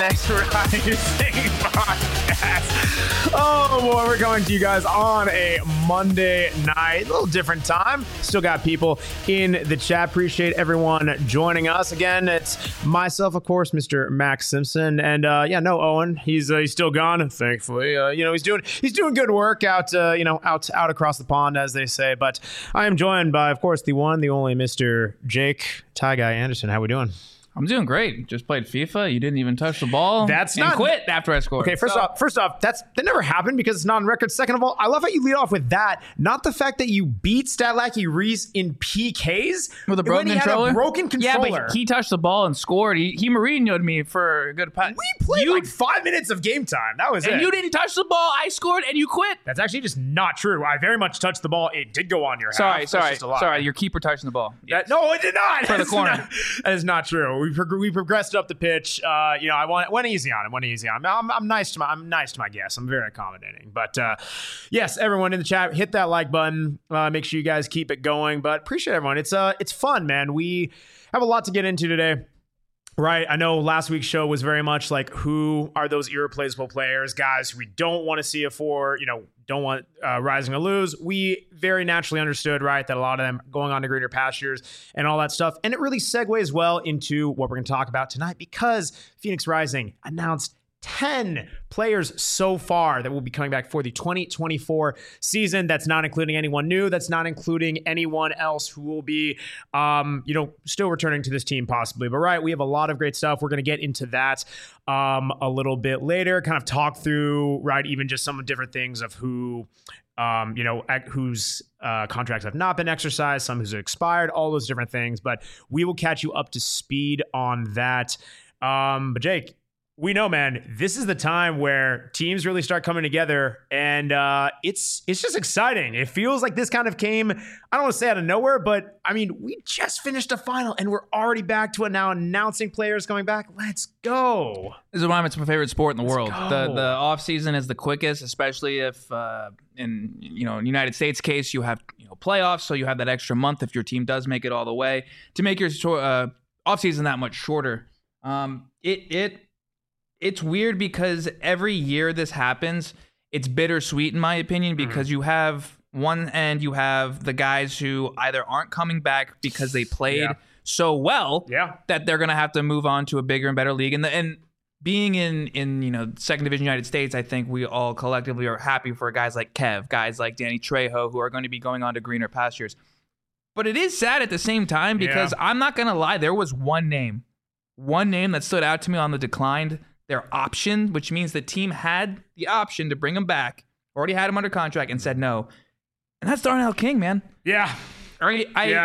FX Rising podcast. Oh boy, we're coming to you guys on a Monday night, a little different time. Still got people in the chat. Appreciate everyone joining us. Again, it's myself, of course, Mr. Max Simpson, and no Owen. He's still gone, thankfully. He's doing good work out across the pond, as they say. But I am joined by, of course, the one, the only Mr. Jake Tie Guy Anderson. How we doing? I'm doing great. Just played FIFA. You didn't even touch the ball. Quit after I scored. Okay, first off, that never happened because it's not on record. Second of all, I love how you lead off with that. Not the fact that you beat Statlacky Reese in PKs with a broken controller. Had a broken controller. Yeah, but he touched the ball and scored. He Mourinho'd me for a good pass. We played like 5 minutes of game time. That was it. And you didn't touch the ball. I scored and you quit. That's actually just not true. I very much touched the ball. It did go on your half. Sorry. Your keeper touched the ball. Yes. No, it did not. For the corner. That is not true. We progressed up the pitch. I went easy on him. I'm nice to my guests. I'm very accommodating. But yes, everyone in the chat, hit that like button. Make sure you guys keep it going. But appreciate everyone. It's fun, man. We have a lot to get into today. Right. I know last week's show was very much like, who are those irreplaceable players, guys we don't want to see it for, don't want Rising to lose. We very naturally understood, right, that a lot of them going on to greener pastures and all that stuff. And it really segues well into what we're going to talk about tonight, because Phoenix Rising announced 10 players so far that will be coming back for the 2024 season. That's not including anyone new. That's not including anyone else who will be, still returning to this team possibly. But right, we have a lot of great stuff. We're going to get into that a little bit later, kind of talk through, right, even just some different things of who, whose contracts have not been exercised, some who's expired, all those different things. But we will catch you up to speed on that. But Jake, we know, man, this is the time where teams really start coming together, and it's just exciting. It feels like this kind of came, I don't want to say out of nowhere, but I mean, we just finished a final and we're already back to it now, announcing players coming back. Let's go. This is why it's my favorite sport in the world. The off season is the quickest, especially if in United States case you have playoffs, so you have that extra month if your team does make it all the way to make your off season that much shorter. It's weird because every year this happens, it's bittersweet in my opinion, because you have one end, you have the guys who either aren't coming back because they played so well that they're going to have to move on to a bigger and better league. And being in second division United States, I think we all collectively are happy for guys like Kev, guys like Danny Trejo, who are going to be going on to greener pastures. But it is sad at the same time because I'm not going to lie, there was one name that stood out to me on the declined. Their option, which means the team had the option to bring him back, already had him under contract, and said no. And that's Darnell King, man. Yeah. I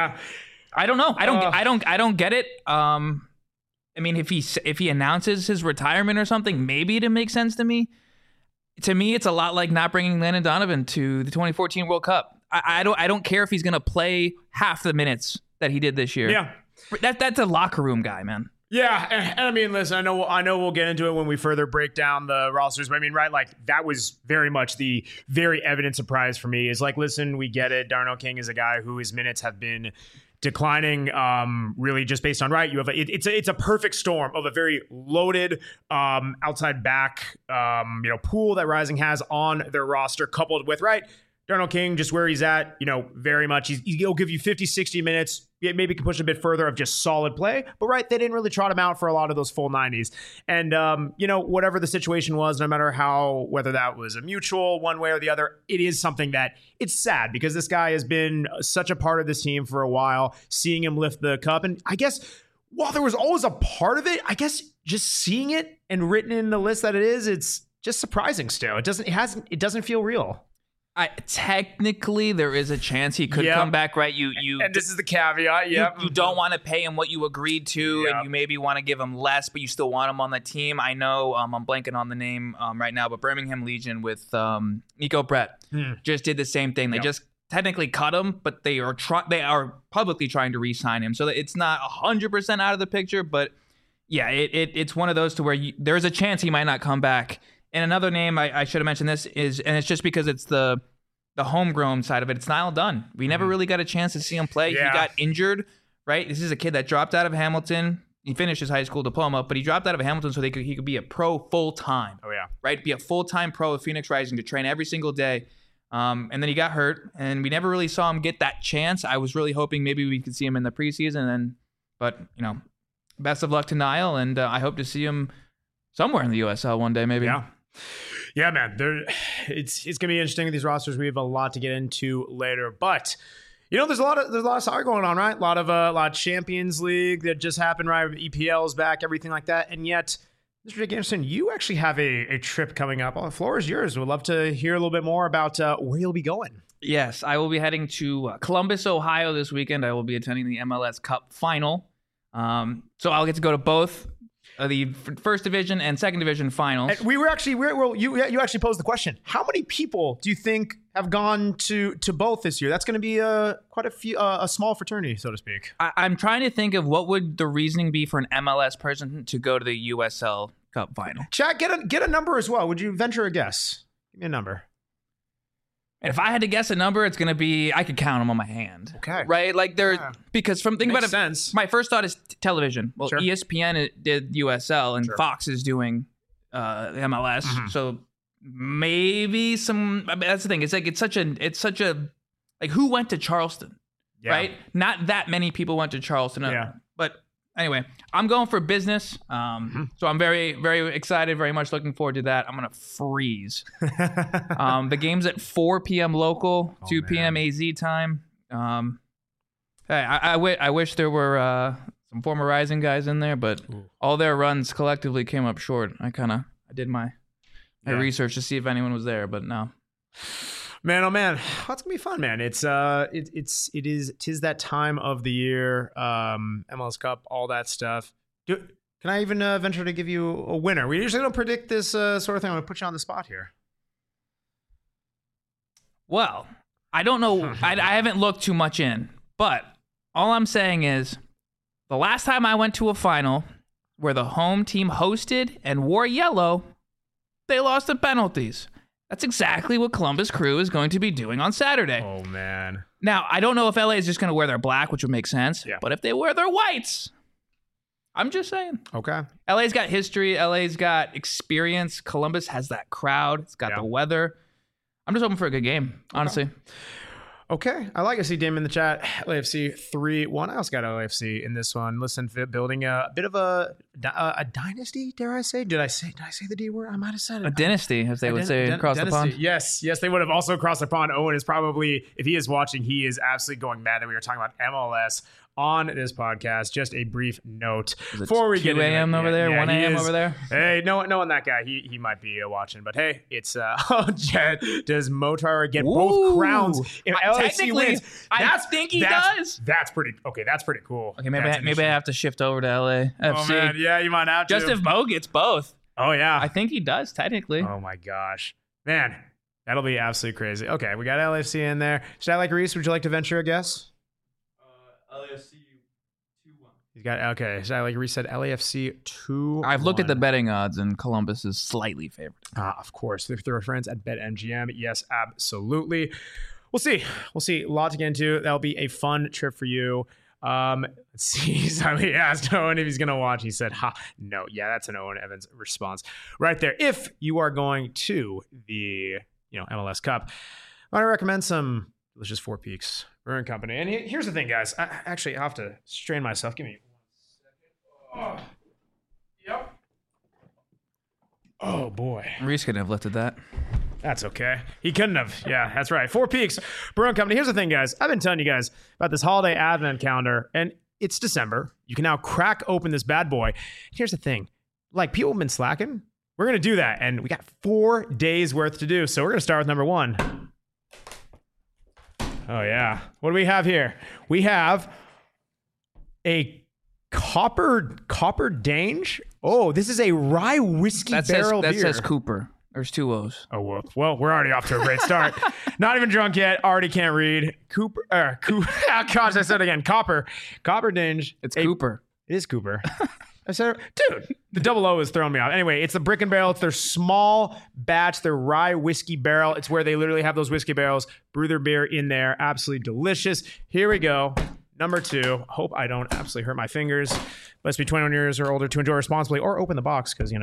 don't know. I don't get it. I mean, if he announces his retirement or something, maybe it'd make sense to me. To me, it's a lot like not bringing Landon Donovan to the 2014 World Cup. I don't care if he's gonna play half the minutes that he did this year. Yeah. That's a locker room guy, man. Yeah, and I mean, listen, I know we'll get into it when we further break down the rosters, but I mean, right, like, that was very much the very evident surprise for me, is like, listen, we get it. Darnell King is a guy who his minutes have been declining, really just based on, right, you have it's a perfect storm of a very loaded outside back pool that Rising has on their roster, coupled with, right, Darnell King, just where he's at, very much. He'll give you 50, 60 minutes. Maybe can push a bit further of just solid play. But, right, they didn't really trot him out for a lot of those full 90s. And, whatever the situation was, no matter whether that was a mutual one way or the other, it is something that it's sad, because this guy has been such a part of this team for a while, seeing him lift the cup. And I guess while there was always a part of it, I guess just seeing it and written in the list that it is, it's just surprising still. It doesn't feel real. Technically, there is a chance he could come back, right? And this is the caveat. You don't want to pay him what you agreed to, and you maybe want to give him less, but you still want him on the team. I know I'm blanking on the name right now, but Birmingham Legion with Nico Brett just did the same thing. They just technically cut him, but they are publicly trying to re-sign him, so that it's not 100% out of the picture. But yeah, it's one of those to where there's a chance he might not come back. And another name I should have mentioned this is, and it's just because it's the homegrown side of it, it's Niall Dunn. We never really got a chance to see him play. He got injured, right? This is a kid that dropped out of Hamilton, He finished his high school diploma, but he dropped out of Hamilton so he could be a pro full time. Oh yeah, right? Be a full time pro of Phoenix Rising to train every single day. And then he got hurt, and we never really saw him get that chance. I was really hoping maybe we could see him in the preseason, but best of luck to Niall, and I hope to see him somewhere in the USL one day, maybe. Yeah, man. It's gonna be interesting with these rosters. We have a lot to get into later, but. There's a lot of soccer going on, right? A lot of Champions League that just happened, right? EPL's back, everything like that. And yet, Mr. Jake Anderson, you actually have a trip coming up. The floor is yours. We'd love to hear a little bit more about where you'll be going. Yes, I will be heading to Columbus, Ohio this weekend. I will be attending the MLS Cup final. So I'll get to go to both the first division and second division finals. And you actually posed the question. How many people do you think have gone to both this year? That's going to be quite a small fraternity, so to speak. I'm trying to think of what would the reasoning be for an MLS person to go to the USL Cup final. Chat, get a number as well. Would you venture a guess? Give me a number. And if I had to guess a number, it's going to be, I could count them on my hand. Okay. Right? Like because think about it. Sense. My first thought is television. Well, sure. ESPN did USL and sure. Fox is doing MLS. Mm-hmm. So maybe that's the thing. It's such a, like, who went to Charleston? Yeah. Right? Not that many people went to Charleston. Yeah. But anyway, I'm going for business. So I'm very, very excited, very much looking forward to that. I'm going to freeze. The game's at 4 p.m. local, 2 p.m. AZ time. I wish there were some former Rising guys in there, but all their runs collectively came up short. I did my research to see if anyone was there, but no. Man, oh man, that's gonna be fun, man. Tis that time of the year, MLS Cup, all that stuff. Can I even venture to give you a winner? We usually don't predict this sort of thing. I'm gonna put you on the spot here. Well, I don't know. I haven't looked too much in, but all I'm saying is the last time I went to a final where the home team hosted and wore yellow, they lost in penalties. That's exactly what Columbus Crew is going to be doing on Saturday. Oh, man. Now, I don't know if LA is just going to wear their black, which would make sense. Yeah. But if they wear their whites, I'm just saying. Okay. LA's got history. LA's got experience. Columbus has that crowd. It's got the weather. I'm just hoping for a good game, honestly. Okay. I like to see Damon in the chat. LAFC 3-1. I also got LAFC in this one. Listen, building a bit of a dynasty, dare I say? Did I say the D word? I might have said it. A dynasty, as they would say across the pond. Yes, they would have also crossed the pond. Owen is probably, if he is watching, he is absolutely going mad that we were talking about MLS on this podcast. Just a brief note before we get 2 a.m. over there, 1 a.m. over there. Hey, knowing that guy, he might be watching. But hey, it's Jed, does Motar get both crowns if LAFC wins? I think he does. That's pretty cool. Okay, maybe I have to shift over to LAFC. Oh man, yeah, you might have to. Just if Mo gets both. Oh yeah, I think he does technically. Oh my gosh, man, that'll be absolutely crazy. Okay, we got LAFC in there. Should I like Reese? Would you like to venture a guess? LAFC 2-1. He's got Should I like Reese said LAFC 2-1. I've looked at the betting odds, and Columbus is slightly favored. Of course, if there are friends at BetMGM, yes, absolutely. We'll see. A lot to get into. That'll be a fun trip for you. Let's see. Somebody asked Owen if he's going to watch. He said, no. Yeah, that's an Owen Evans response right there. If you are going to the MLS Cup, I want to recommend some delicious Four Peaks Brewing Company. And here's the thing, guys. I have to strain myself. Give me 1 second. Yep. Oh, boy. Reese couldn't have lifted that. That's okay. He couldn't have. Yeah, that's right. Four Peaks Brewing Company. Here's the thing, guys. I've been telling you guys about this holiday advent calendar, and it's December. You can now crack open this bad boy. Here's the thing. Like, people have been slacking. We're going to do that, and we got 4 days worth to do. So we're going to start with number 1. Oh, yeah. What do we have here? We have a Copper Dange. Oh, this is a rye whiskey barrel beer. That says Cooper. There's 2 O's. Oh, well, we're already off to a great start. Not even drunk yet. Already can't read. Cooper. Gosh, I said it again. Copper Dange. It's Cooper. It is Cooper. I said, dude, the double O is throwing me off. Anyway, it's the Brick and Barrel. It's their small batch, their rye whiskey barrel. It's where they literally have those whiskey barrels, brew their beer in there. Absolutely delicious. Here we go. Number 2, hope I don't absolutely hurt my fingers. Must be 21 years or older to enjoy responsibly, or open the box because,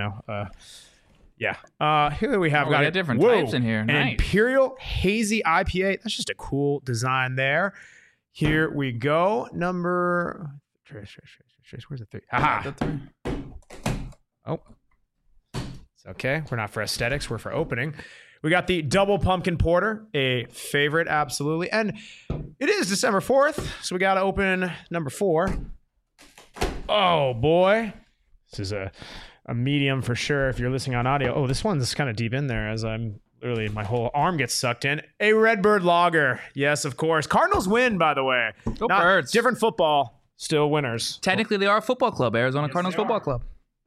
yeah. Here we have we got different types in here. An Nice. Imperial Hazy IPA. That's just a cool design there. Here we go. Number... Where's the 3? Haha. Oh. It's okay. We're not for aesthetics. We're for opening. We got the Double Pumpkin Porter, a favorite, absolutely. And it is December 4th, so we got to open number 4. Oh, boy. This is a medium for sure if you're listening on audio. Oh, this one's kind of deep in there as I'm literally, my whole arm gets sucked in. A Redbird Lager. Yes, of course. Cardinals win, by the way. Go Birds. Different football. Still winners. Technically, they are a football club, Arizona Cardinals Football Club.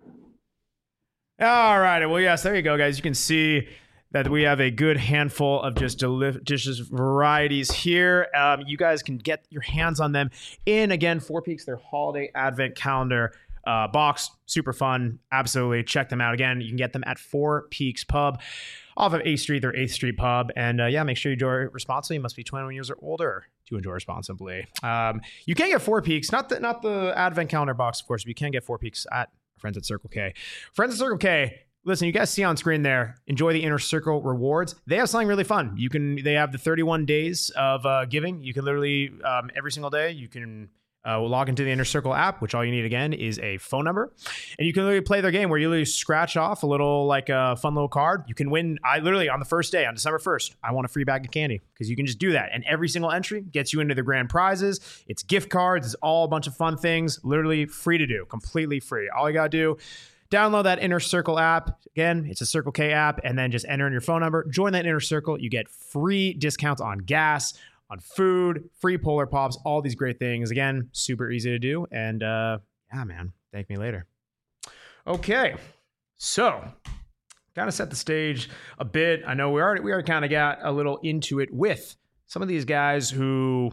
All right. Well, yes, there you go, guys. You can see that we have a good handful of just delicious varieties here. You guys can get your hands on them in, again, Four Peaks, their holiday advent calendar box. Super fun. Absolutely. Check them out. Again, you can get them at Four Peaks Pub off of 8th Street, their 8th Street Pub. And make sure you enjoy responsibly. You must be 21 years or older to enjoy responsibly. You can get Four Peaks, not the advent calendar box, of course, but you can get Four Peaks at friends at Circle K. Friends at Circle K, listen, you guys see on screen there, enjoy the Inner Circle rewards. They have something really fun. They have the 31 days of giving. You can literally, every single day, you can log into the Inner Circle app, which all you need, again, is a phone number. And you can literally play their game where you literally scratch off a little, fun little card. You can win, literally on the first day, on December 1st, I want a free bag of candy, because you can just do that. And every single entry gets you into the grand prizes. It's gift cards. It's all a bunch of fun things. Literally free to do. Completely free. All you got to do, download that Inner Circle app. Again, it's a Circle K app, and then just enter in your phone number. Join that Inner Circle. You get free discounts on gas, on food, free Polar Pops, all these great things. Again, super easy to do. And man, thank me later. Okay, so kind of set the stage a bit. I know we already kind of got a little into it with some of these guys who,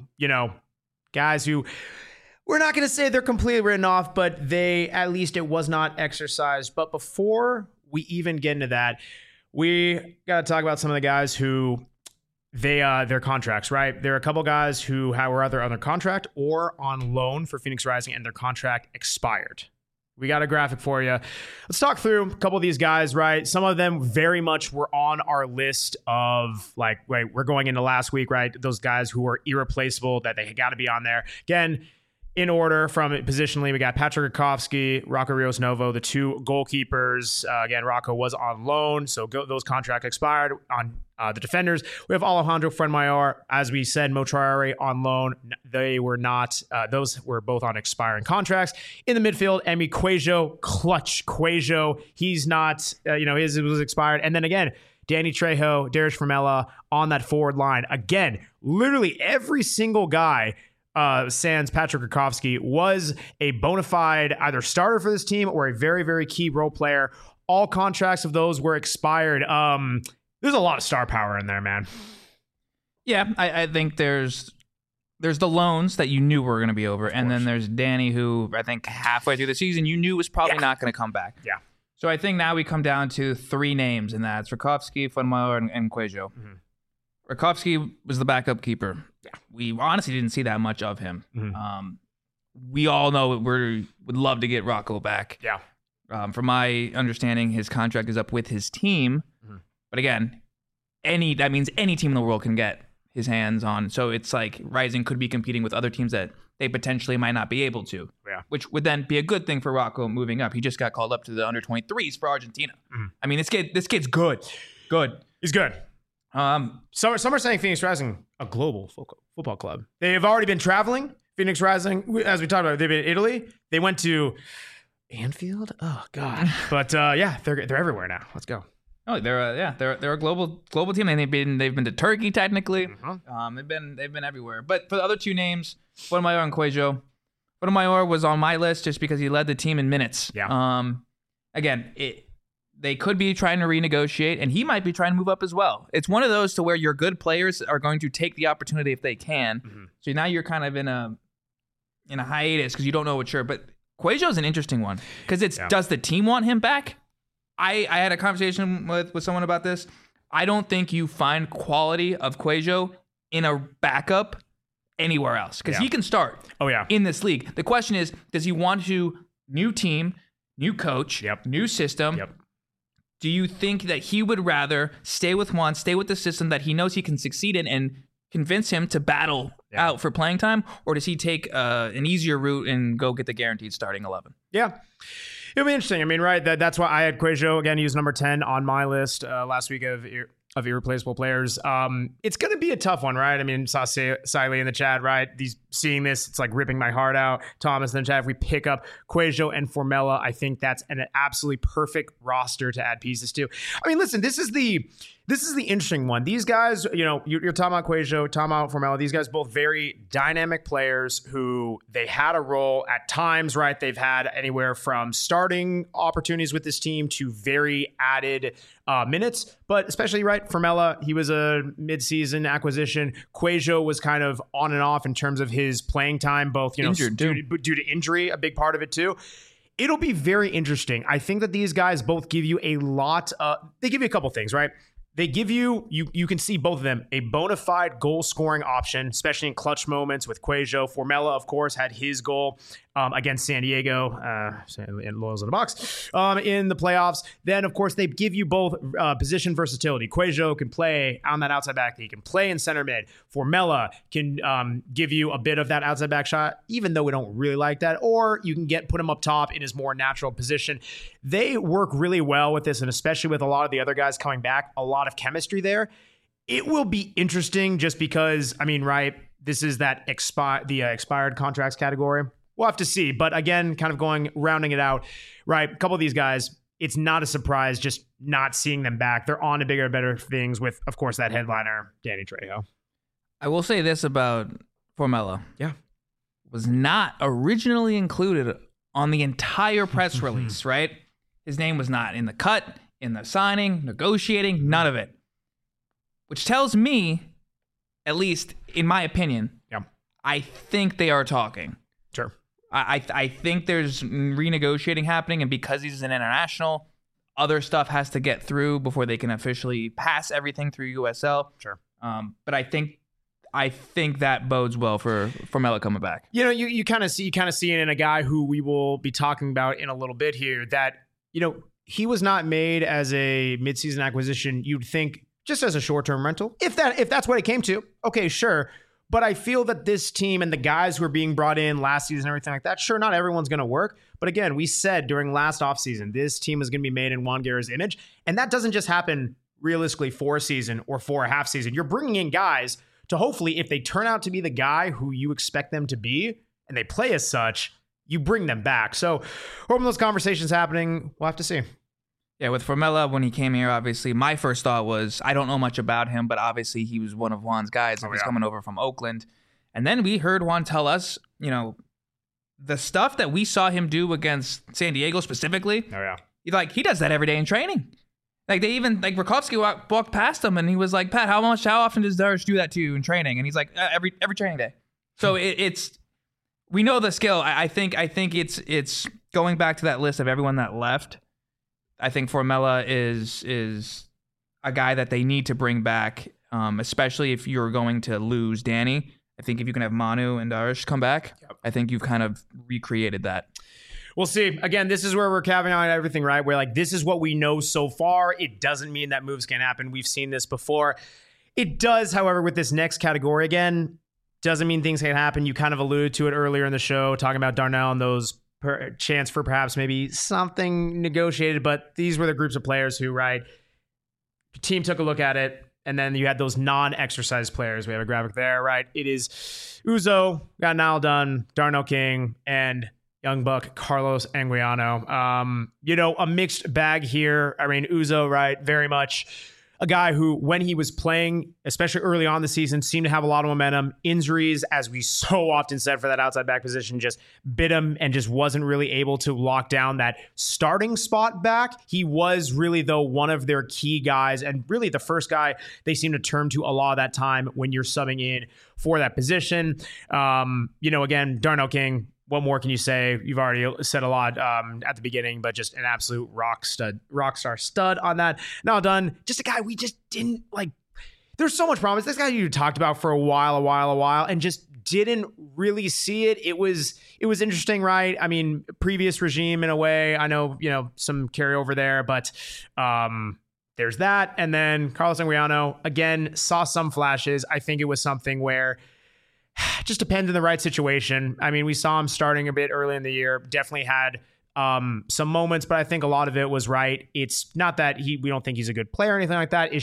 we're not going to say they're completely written off, but at least it was not exercised. But before we even get into that, we got to talk about some of the guys who their contracts, right? There are a couple guys who were either under contract or on loan for Phoenix Rising, and their contract expired. We got a graphic for you. Let's talk through a couple of these guys, right? Some of them very much were on our list of we're going into last week, right? Those guys who were irreplaceable, that they got to be on there. Again, in order from it positionally, we got Patrick Rakowski, Rocco Rios Novo, the two goalkeepers. Again, Rocco was on loan, so those contracts expired. On the defenders, we have Alejandro Fuenmayor. As we said, Mo Traore on loan. They were not. Those were both on expiring contracts. In the midfield, Emi Cuejo, clutch Cuejo. He's not, his was expired. And then again, Danny Trejo, Darius Formella on that forward line. Again, literally every single guy, sans Patrick Rakowski, was a bona fide either starter for this team or a very, very key role player. All contracts of those were expired. There's a lot of star power in there, man. Yeah, I think there's the loans that you knew were going to be over, and then there's Danny, who I think halfway through the season you knew was probably not going to come back. Yeah. So I think now we come down to 3 names, and that's Rakowski, Fuenmayor, and Cuejo. Mm-hmm. Rakowski was the backup keeper. Yeah. We honestly didn't see that much of him. Mm-hmm. We all know we would love to get Rocco back. Yeah. From my understanding, his contract is up with his team. Mm-hmm. But again, that means any team in the world can get his hands on. So it's like Rising could be competing with other teams that they potentially might not be able to. Yeah. Which would then be a good thing for Rocco moving up. He just got called up to the under-23s for Argentina. Mm-hmm. I mean, this kid's good. Good. He's good. Some are saying Phoenix Rising, a global football club. They have already been traveling. Phoenix Rising, as we talked about, they've been in Italy. They went to Anfield. Oh God. But they're everywhere now. Let's go. Oh, they're a global team, and they've been to Turkey technically. Mm-hmm. They've been everywhere. But for the other 2 names, Fuenmayor and Cuejo. Fuenmayor was on my list just because he led the team in minutes. Yeah. Again, they could be trying to renegotiate, and he might be trying to move up as well. It's one of those to where your good players are going to take the opportunity if they can. Mm-hmm. So now you're kind of in a hiatus because you don't know what sure. But Cuejo's an interesting one because does the team want him back? I had a conversation with someone about this. I don't think you find quality of Cuejo in a backup anywhere else because Yeah. he can start yeah. in this league. The question is, does he want to new team, new coach, Yep. new system? Yep. Do you think that he would rather stay with Juan, stay with the system that he knows he can succeed in and convince him to battle out for playing time? Or does he take an easier route and go get the guaranteed starting 11? Yeah. It'll be interesting. I mean, right, that's why I had Cuejo, again, he was number 10 on my list last week of irreplaceable players. It's going to be a tough one, right? I mean, saw Siley in the chat, right? Seeing this, it's like ripping my heart out. Thomas in the chat, if we pick up Cuejo and Formella, I think that's an absolutely perfect roster to add pieces to. I mean, listen, this is the interesting one. These guys, you're talking about Cuejo, talking about Formella. These guys both very dynamic players who they had a role at times, right? They've had anywhere from starting opportunities with this team to very added minutes, but especially, right, Formella, he was a midseason acquisition. Cuejo was kind of on and off in terms of his playing time, both, Injured, due to injury, a big part of it too. It'll be very interesting. I think that these guys both give you a lot. They give you a couple things, right? They give you can see both of them, a bona fide goal scoring option, especially in clutch moments with Cuejo. Formella, of course, had his goal against San Diego, in Loyals in the box, in the playoffs. Then, of course, they give you both position versatility. Cuejo can play on that outside back. He can play in center mid. Formella can give you a bit of that outside back shot, even though we don't really like that. Or you can put him up top in his more natural position. They work really well with this, and especially with a lot of the other guys coming back, a lot of chemistry there. It will be interesting just because, I mean, right, this is that expired contracts category. We'll have to see. But again, kind of rounding it out, right, a couple of these guys, it's not a surprise just not seeing them back. They're on to bigger and better things with, of course, that headliner, Danny Trejo. I will say this about Formella. Yeah. Was not originally included on the entire press release, right? His name was not in the cut, in the signing, negotiating, none of it. Which tells me, at least in my opinion, I think they are talking. Sure. I think there's renegotiating happening, and because he's an international, other stuff has to get through before they can officially pass everything through USL. Sure. But I think that bodes well for Formella coming back. You kind of see it in a guy who we will be talking about in a little bit here that, he was not made as a midseason acquisition. You'd think just as a short-term rental, if that's what it came to. Okay, sure. But I feel that this team and the guys who are being brought in last season and everything like that, sure, not everyone's going to work. But again, we said during last offseason, this team is going to be made in Juan Guerra's image. And that doesn't just happen realistically for a season or for a half season. You're bringing in guys to hopefully, if they turn out to be the guy who you expect them to be and they play as such, you bring them back. So hoping those conversations happening, we'll have to see. Yeah, with Formella, when he came here, obviously, my first thought was, I don't know much about him, but obviously he was one of Juan's guys. He's coming over from Oakland. And then we heard Juan tell us, the stuff that we saw him do against San Diego specifically. Oh, yeah. He does that every day in training. They even, Rakowski walked past him and he was like, Pat, how often does Darsh do that to you in training? And he's like, every training day. So we know the skill. I think it's going back to that list of everyone that left. I think Formella is a guy that they need to bring back, especially if you're going to lose Danny. I think if you can have Manu and Darsh come back, I think you've kind of recreated that. We'll see. Again, this is where we're caveating everything, right? Where this is what we know so far. It doesn't mean that moves can't happen. We've seen this before. It does, however, with this next category, again, doesn't mean things can't happen. You kind of alluded to it earlier in the show, talking about Darnell and those chance for perhaps maybe something negotiated, but these were the groups of players who, right, the team took a look at it, and then you had those non-exercise players. We have a graphic there, right? It is Uzo, got Niall Dunn, Darnell King, and young buck Carlos Anguiano. A mixed bag here. I mean, Uzo, right, very much a guy who, when he was playing, especially early on the season, seemed to have a lot of momentum. Injuries, as we so often said for that outside back position, just bit him and just wasn't really able to lock down that starting spot back. He was really, though, one of their key guys and really the first guy they seem to turn to a lot of that time when you're subbing in for that position. Again, Darnell King, what more can you say? You've already said a lot at the beginning, but just an absolute rock star stud on that. Now done, just a guy we just didn't like. There's so much promise. This guy you talked about for a while, and just didn't really see it. It was interesting, right? I mean, previous regime in a way. I know, some carryover there, but there's that. And then Carlos Anguiano, again, saw some flashes. I think it was something where it just depends on the right situation. I mean, we saw him starting a bit early in the year, definitely had some moments, but I think a lot of it was right. It's not that we don't think he's a good player or anything like that.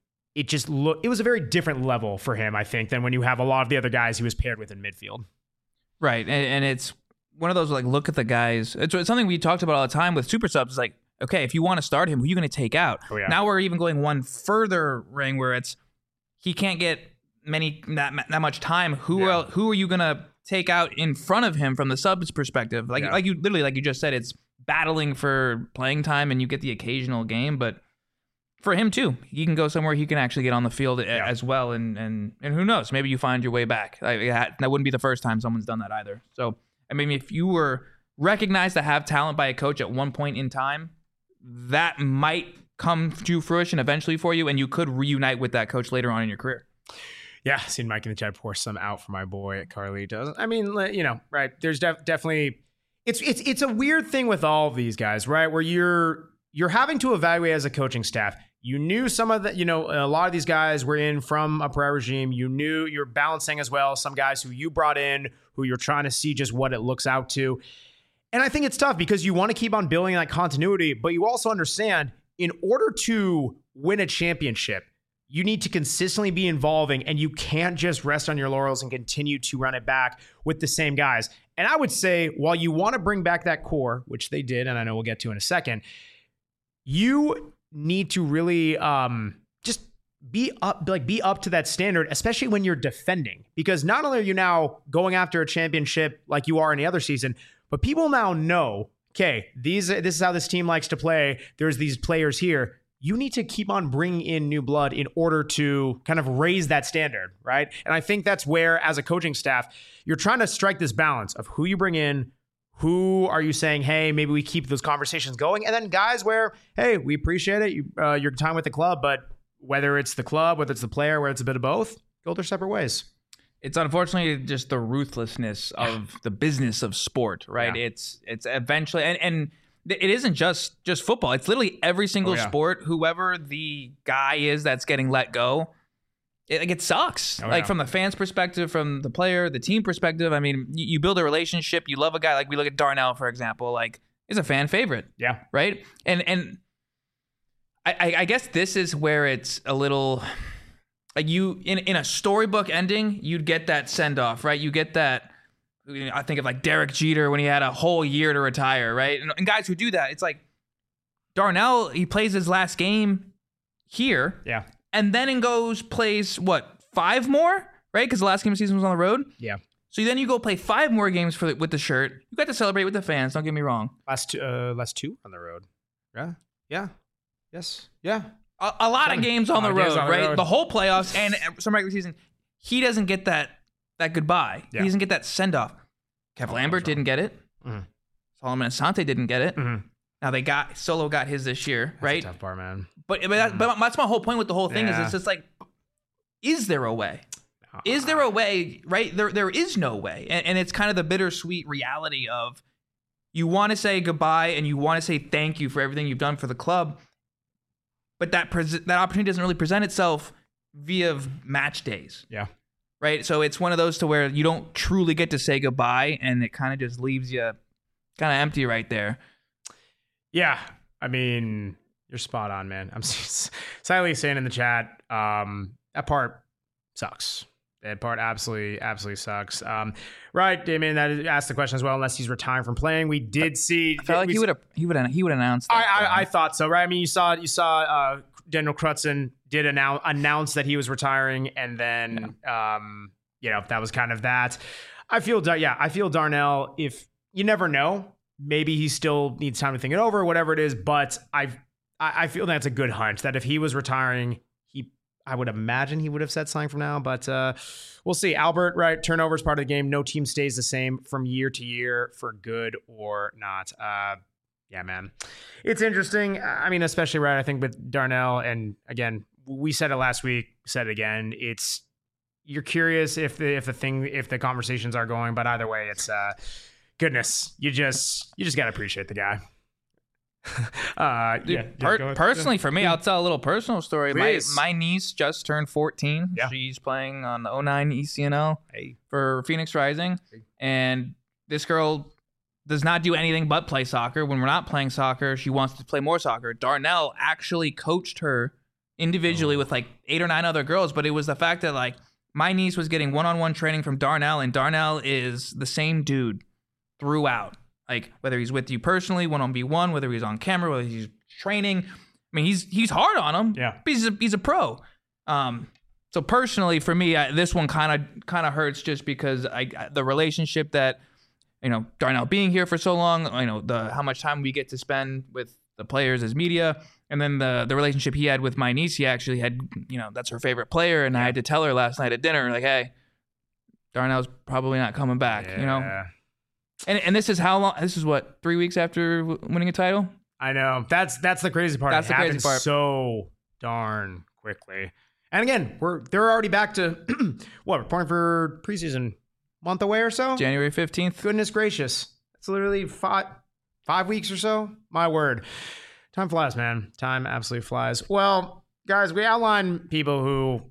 It was a very different level for him, I think, than when you have a lot of the other guys he was paired with in midfield. Right. And it's one of those, like, look at the guys. It's something we talked about all the time with super subs. It's like, okay, if you want to start him, who are you going to take out? Oh, yeah. Now we're even going one further ring where it's he can't get that much time. Who are you going to take out in front of him from the subs perspective? Like you just said, it's battling for playing time and you get the occasional game, but for him too, he can go somewhere he can actually get on the field as well, and who knows, maybe you find your way back. That wouldn't be the first time someone's done that either. So, I mean, if you were recognized to have talent by a coach at one point in time, that might come to fruition eventually for you, and you could reunite with that coach later on in your career. Yeah, seen Mike in the chat pour some out for my boy Carlitos. I mean, right? There's definitely it's a weird thing with all of these guys, right? Where you're having to evaluate as a coaching staff. You knew some of the, a lot of these guys were in from a prior regime. You knew you're balancing as well some guys who you brought in, who you're trying to see just what it looks out to. And I think it's tough because you want to keep on building that continuity, but you also understand in order to win a championship, you need to consistently be involving, and you can't just rest on your laurels and continue to run it back with the same guys. And I would say, while you want to bring back that core, which they did, and I know we'll get to in a second, you need to really just be up to that standard, especially when you're defending, because not only are you now going after a championship like you are any other season, but people now know, okay, this is how this team likes to play. There's these players here. You need to keep on bringing in new blood in order to kind of raise that standard, right? And I think that's where, as a coaching staff, you're trying to strike this balance of who you bring in, who are you saying, hey, maybe we keep those conversations going? And then guys where, hey, we appreciate it, your time with the club, but whether it's the club, whether it's the player, whether it's a bit of both, go their separate ways. It's unfortunately just the ruthlessness of the business of sport, right? Yeah. It's eventually, and it isn't just football. It's literally every single sport. Whoever the guy is that's getting let go, it sucks. From the fans' perspective, from the player, the team perspective. I mean, you build a relationship. You love a guy. Like we look at Darnell, for example. Like, he's a fan favorite. Yeah. Right. And I guess this is where it's a little like you in a storybook ending, you'd get that send off, right? You get that. I think of like Derek Jeter when he had a whole year to retire, right? And guys who do that, it's like Darnell. He plays his last game here. Yeah. And then plays 5 more, right? Because the last game of the season was on the road. Yeah. So then you go play 5 more games with the shirt. You got to celebrate with the fans. Don't get me wrong. Last 2 on the road. Yeah. Yeah. Yes. Yeah. A lot of games on the road, right? The whole playoffs and some regular season. He doesn't get that goodbye. Yeah. He doesn't get that send off. Kev Lambert didn't get it. Mm-hmm. Solomon Asante didn't get it. Mm-hmm. Now Solo got his this year, right? That's a tough part, man. But that's my whole point with the whole thing is it's just like, is there a way? Is there a way, right? There is no way. And it's kind of the bittersweet reality of you want to say goodbye and you want to say thank you for everything you've done for the club, but that opportunity doesn't really present itself via match days. Yeah. Right? So it's one of those to where you don't truly get to say goodbye, and it kind of just leaves you kind of empty right there. Yeah. I mean, you're spot on, man. I'm silently saying in the chat, that part sucks. That part absolutely sucks. Right, Damien, that asked the question as well. Unless he's retiring from playing, we did see. I felt like he would announce that. I thought so, right? I mean, you saw Daniel Crutzen did announce that he was retiring, and then that was kind of that. I feel Darnell. If you never know, maybe he still needs time to think it over, whatever it is. But I feel that's a good hunch that if he was retiring, I would imagine he would have said something from now, but we'll see. Albert, right? Turnover is part of the game. No team stays the same from year to year for good or not. Yeah, man. It's interesting. I mean, especially, right, I think with Darnell, and again, we said it last week, said it again. It's, you're curious if the conversations are going, but either way, it's goodness. You just gotta appreciate the guy. Personally, for me, I'll tell a little personal story. Please. My niece just turned 14. Yeah. She's playing on the 09 ECNL for Phoenix Rising, and this girl does not do anything but play soccer. When we're not playing soccer, she wants to play more soccer. Darnell actually coached her individually with like 8 or 9 other girls, but it was the fact that like my niece was getting one-on-one training from Darnell, and Darnell is the same dude throughout. Like whether he's with you personally, 1-on-1, whether he's on camera, whether he's training. I mean, he's hard on him. Yeah, but he's a pro. So personally, for me, this one kind of hurts just because the relationship that, Darnell being here for so long, how much time we get to spend with the players as media, and then the relationship he had with my niece. He actually had, that's her favorite player, and I had to tell her last night at dinner, like, hey, Darnell's probably not coming back. And this is how long? This is what, 3 weeks after winning a title? I know. That's the crazy part. That's it the crazy happens part. so darn quickly. And again, they're already back to what, reporting for preseason month away or so? January 15th. Goodness gracious. It's literally 5 weeks or so. My word. Time flies, man. Time absolutely flies. Well, guys, we outlined people who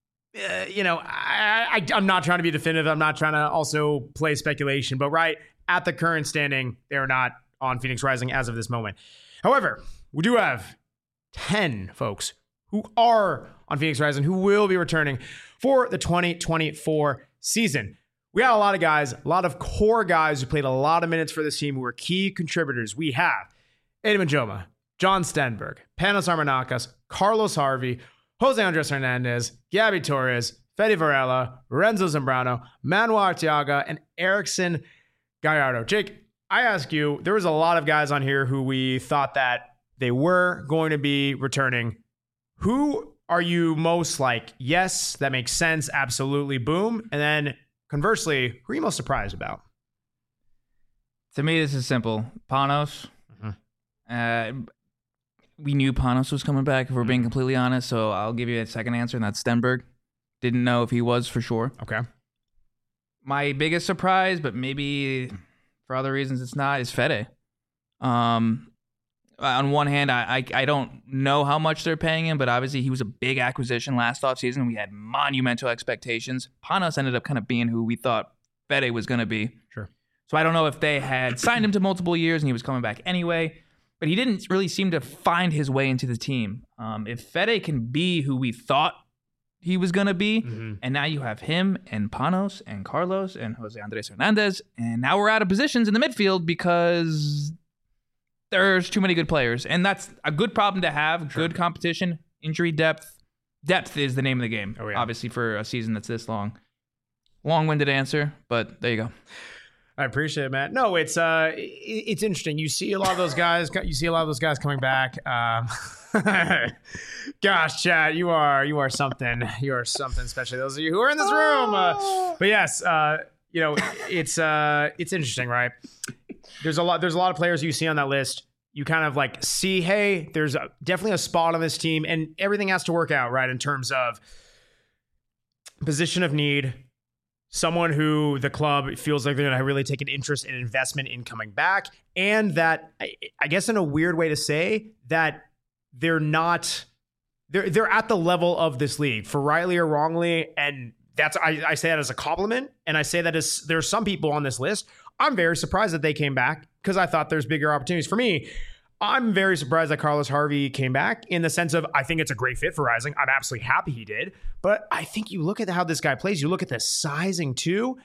I'm not trying to be definitive. I'm not trying to also play speculation, but right at the current standing, they're not on Phoenix Rising as of this moment. However, we do have 10 folks who are on Phoenix Rising who will be returning for the 2024 season. We got a lot of guys, a lot of core guys who played a lot of minutes for this team who were key contributors. We have Eddie Majoma, John Stenberg, Panos Armanakis, Carlos Harvey, Jose Andres Hernandez, Gabby Torres, Fede Varela, Renzo Zambrano, Manuel Arteaga, and Erickson Gallardo. Jake, I ask you, there was a lot of guys on here who we thought that they were going to be returning. Who are you most like, yes, that makes sense, absolutely, boom? And then conversely, who are you most surprised about? To me, this is simple. Panos. We knew Panos was coming back, if we're being completely honest, so I'll give you a second answer, and that's Stenberg. Didn't know if he was for sure. Okay. My biggest surprise, but maybe for other reasons it's not, is Fede. On one hand, I don't know how much they're paying him, but obviously he was a big acquisition last offseason. We had monumental expectations. Panos ended up kind of being who we thought Fede was going to be. Sure. So I don't know if they had signed him to multiple years and he was coming back anyway, but he didn't really seem to find his way into the team. If Fede can be who we thought he was going to be, and now you have him and Panos and Carlos and Jose Andres Hernandez, and now we're out of positions in the midfield because there's too many good players, and that's a good problem to have. Sure. Good competition, injury depth. Depth is the name of the game, obviously, for a season that's this long. Long-winded answer, but there you go. I appreciate it, Matt. No, it's interesting. You see a lot of those guys. You see a lot of those guys coming back. Gosh, Chad, you are something. You are something, especially those of you who are in this room. But yes, it's interesting, right? There's a lot of players you see on that list. You kind of like see, hey, there's definitely a spot on this team, and everything has to work out, right? In terms of position of need. Someone who the club feels like they're going to really take an interest and investment in coming back. And that, I guess in a weird way to say, that they're at the level of this league, for rightly or wrongly. And that's, I say that as a compliment. And I say that as there's some people on this list. I'm very surprised that they came back because I thought there's bigger opportunities. For me, I'm very surprised that Carlos Harvey came back, in the sense of I think it's a great fit for Rising. I'm absolutely happy he did. But I think you look at how this guy plays, you look at the sizing too.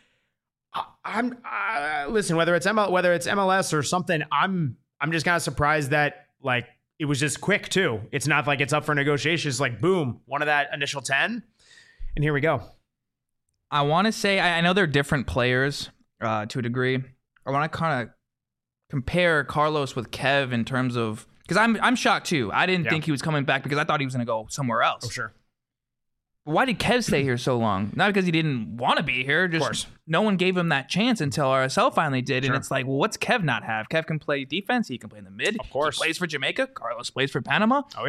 Listen, whether it's MLS or something, I'm just kind of surprised that like it was just quick too. It's not like it's up for negotiations. It's like boom, one of that initial 10, and here we go. I want to say I know they're different players to a degree. I want to kind of compare Carlos with Kev in terms of, because I'm shocked too. I didn't think he was coming back because I thought he was going to go somewhere else. Oh, sure. Why did Kev stay here so long? Not because he didn't want to be here. Just of course. No one gave him that chance until RSL finally did. Sure. And it's like, well, what's Kev not have? Kev can play defense. He can play in the mid. Of course. He plays for Jamaica. Carlos plays for Panama. Oh, yeah.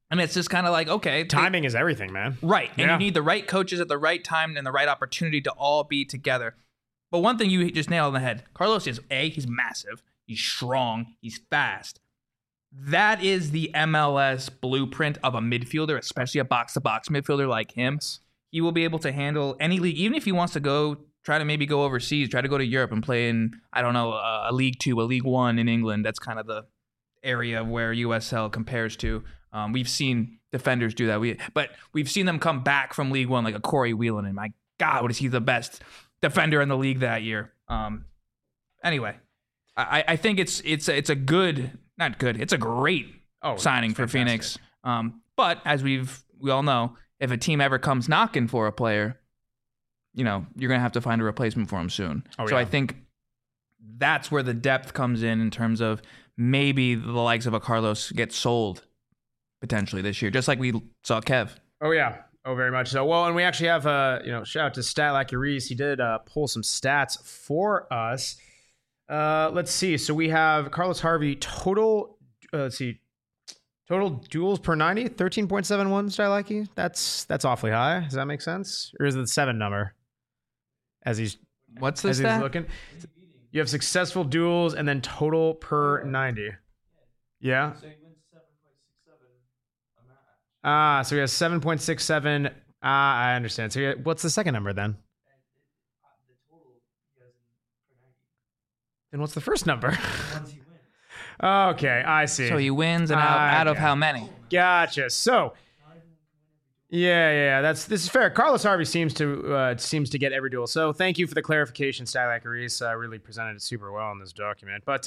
And it's just kind of like, okay. Timing is everything, man. Right. And Yeah. you need the right coaches at the right time and the right opportunity to all be together. But one thing you just nailed on the head. Carlos is, he's massive. He's strong. He's fast. That is the MLS blueprint of a midfielder, especially a box-to-box midfielder like him. He will be able to handle any league, even if he wants to try to maybe go overseas, try to go to Europe and play in, I don't know, a League Two, a League One in England. That's kind of the area where USL compares to. We've seen defenders do that. But we've seen them come back from League One, like a Corey Whelan. And my God, was he the best defender in the league that year? Anyway, I think it's a good, not good. It's a great signing for Phoenix. But as we all know, if a team ever comes knocking for a player, you're going to have to find a replacement for him soon. So I think that's where the depth comes in terms of maybe the likes of a Carlos get sold potentially this year, just like we saw Kev. Oh, yeah. Oh, very much so. Well, and we actually have, shout out to Statlacky Reese. He did pull some stats for us. Let's see. So we have Carlos Harvey total, total duels per 90, 13.71 Statlacky. That's awfully high. Does that make sense? Or is it the 7 number? What's the as stat? he's looking. You have successful duels and then total per 90. Yeah. So he wins 7.67 a match. So he has 7.67. I understand. So what's the second number then? The total he has per 90. Then what's the first number? The ones he wins. Okay, I see. So he wins and out of how many? Gotcha. So, yeah, this is fair. Carlos Harvey seems to get every duel. So thank you for the clarification, Statlacky Reese. Really presented it super well in this document. But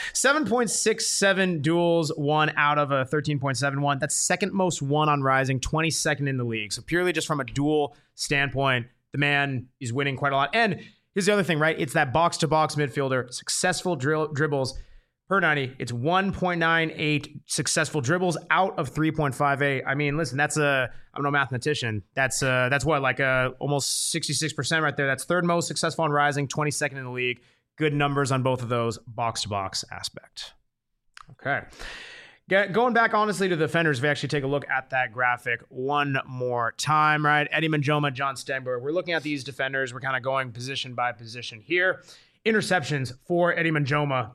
7.67 duels won out of a 13.71. That's second most won on Rising, 22nd in the league. So purely just from a duel standpoint, the man is winning quite a lot. And here's the other thing, right? It's that box-to-box midfielder, successful dribbles per 90. It's 1.98 successful dribbles out of 3.58. I mean, listen, I'm no mathematician. That's what, like almost 66% right there. That's third most successful on Rising, 22nd in the league. Good numbers on both of those box-to-box aspect. Okay. Going back, honestly, to the defenders, if we actually take a look at that graphic one more time, right? Eddie Manjoma, John Stenberg. We're looking at these defenders. We're kind of going position by position here. Interceptions for Eddie Manjoma.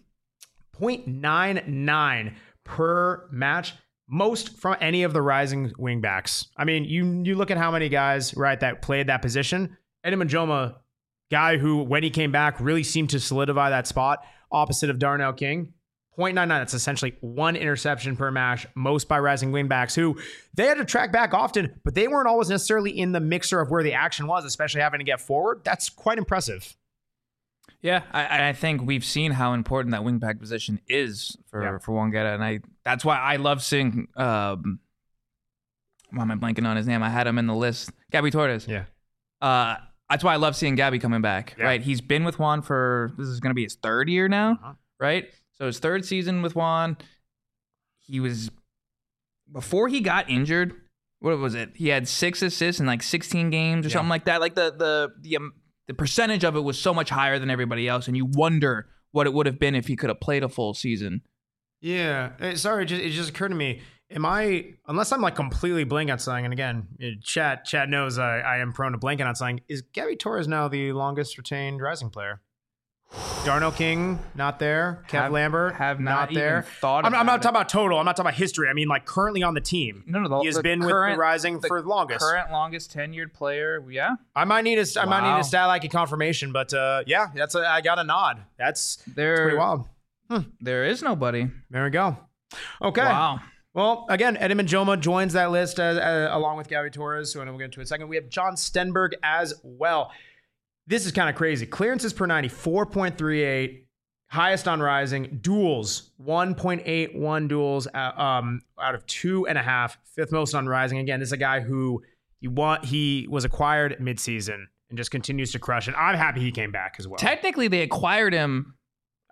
0.99 per match, most from any of the Rising wingbacks. I mean, you look at how many guys, right, that played that position. Eddie Manjoma, guy who, when he came back, really seemed to solidify that spot opposite of Darnell King. 0.99, that's essentially one interception per match, most by Rising wingbacks who they had to track back often, but they weren't always necessarily in the mixer of where the action was, especially having to get forward. That's quite impressive. Yeah, I think we've seen how important that wingback position is for Wongeta, and that's why I love seeing. Why am I blanking on his name? I had him in the list. Gabby Torres. Yeah. That's why I love seeing Gabby coming back. Yeah. Right, he's been with Juan this is going to be his third year now. Right, so his third season with Juan. He was before he got injured. What was it? He had 6 assists in like 16 games or something like that. Like the percentage of it was so much higher than everybody else, and you wonder what it would have been if he could have played a full season. Yeah. Sorry, it just occurred to me. Unless I'm like completely blanking on something, and again, chat knows I am prone to blanking on something, is Gabby Torres now the longest retained Rising player? Darnell King, not there. Kev Lambert, have not there. Thought I'm not talking about total. I'm not talking about history. I mean, like currently on the team. No. He has been with the Rising for the longest. Current longest tenured player. Yeah. I might need a Statlacky confirmation, but I got a nod. That's pretty wild. There is nobody. There we go. Okay. Wow. Well, again, Eddie Manjoma joins that list along with Gabby Torres, who we'll get into in a second. We have John Stenberg as well. This is kind of crazy. Clearances per 90, 4.38. Highest on Rising. Duels, 1.81 duels out of 2.5. Fifth most on Rising. Again, this is a guy who he was acquired midseason and just continues to crush it. I'm happy he came back as well. Technically, they acquired him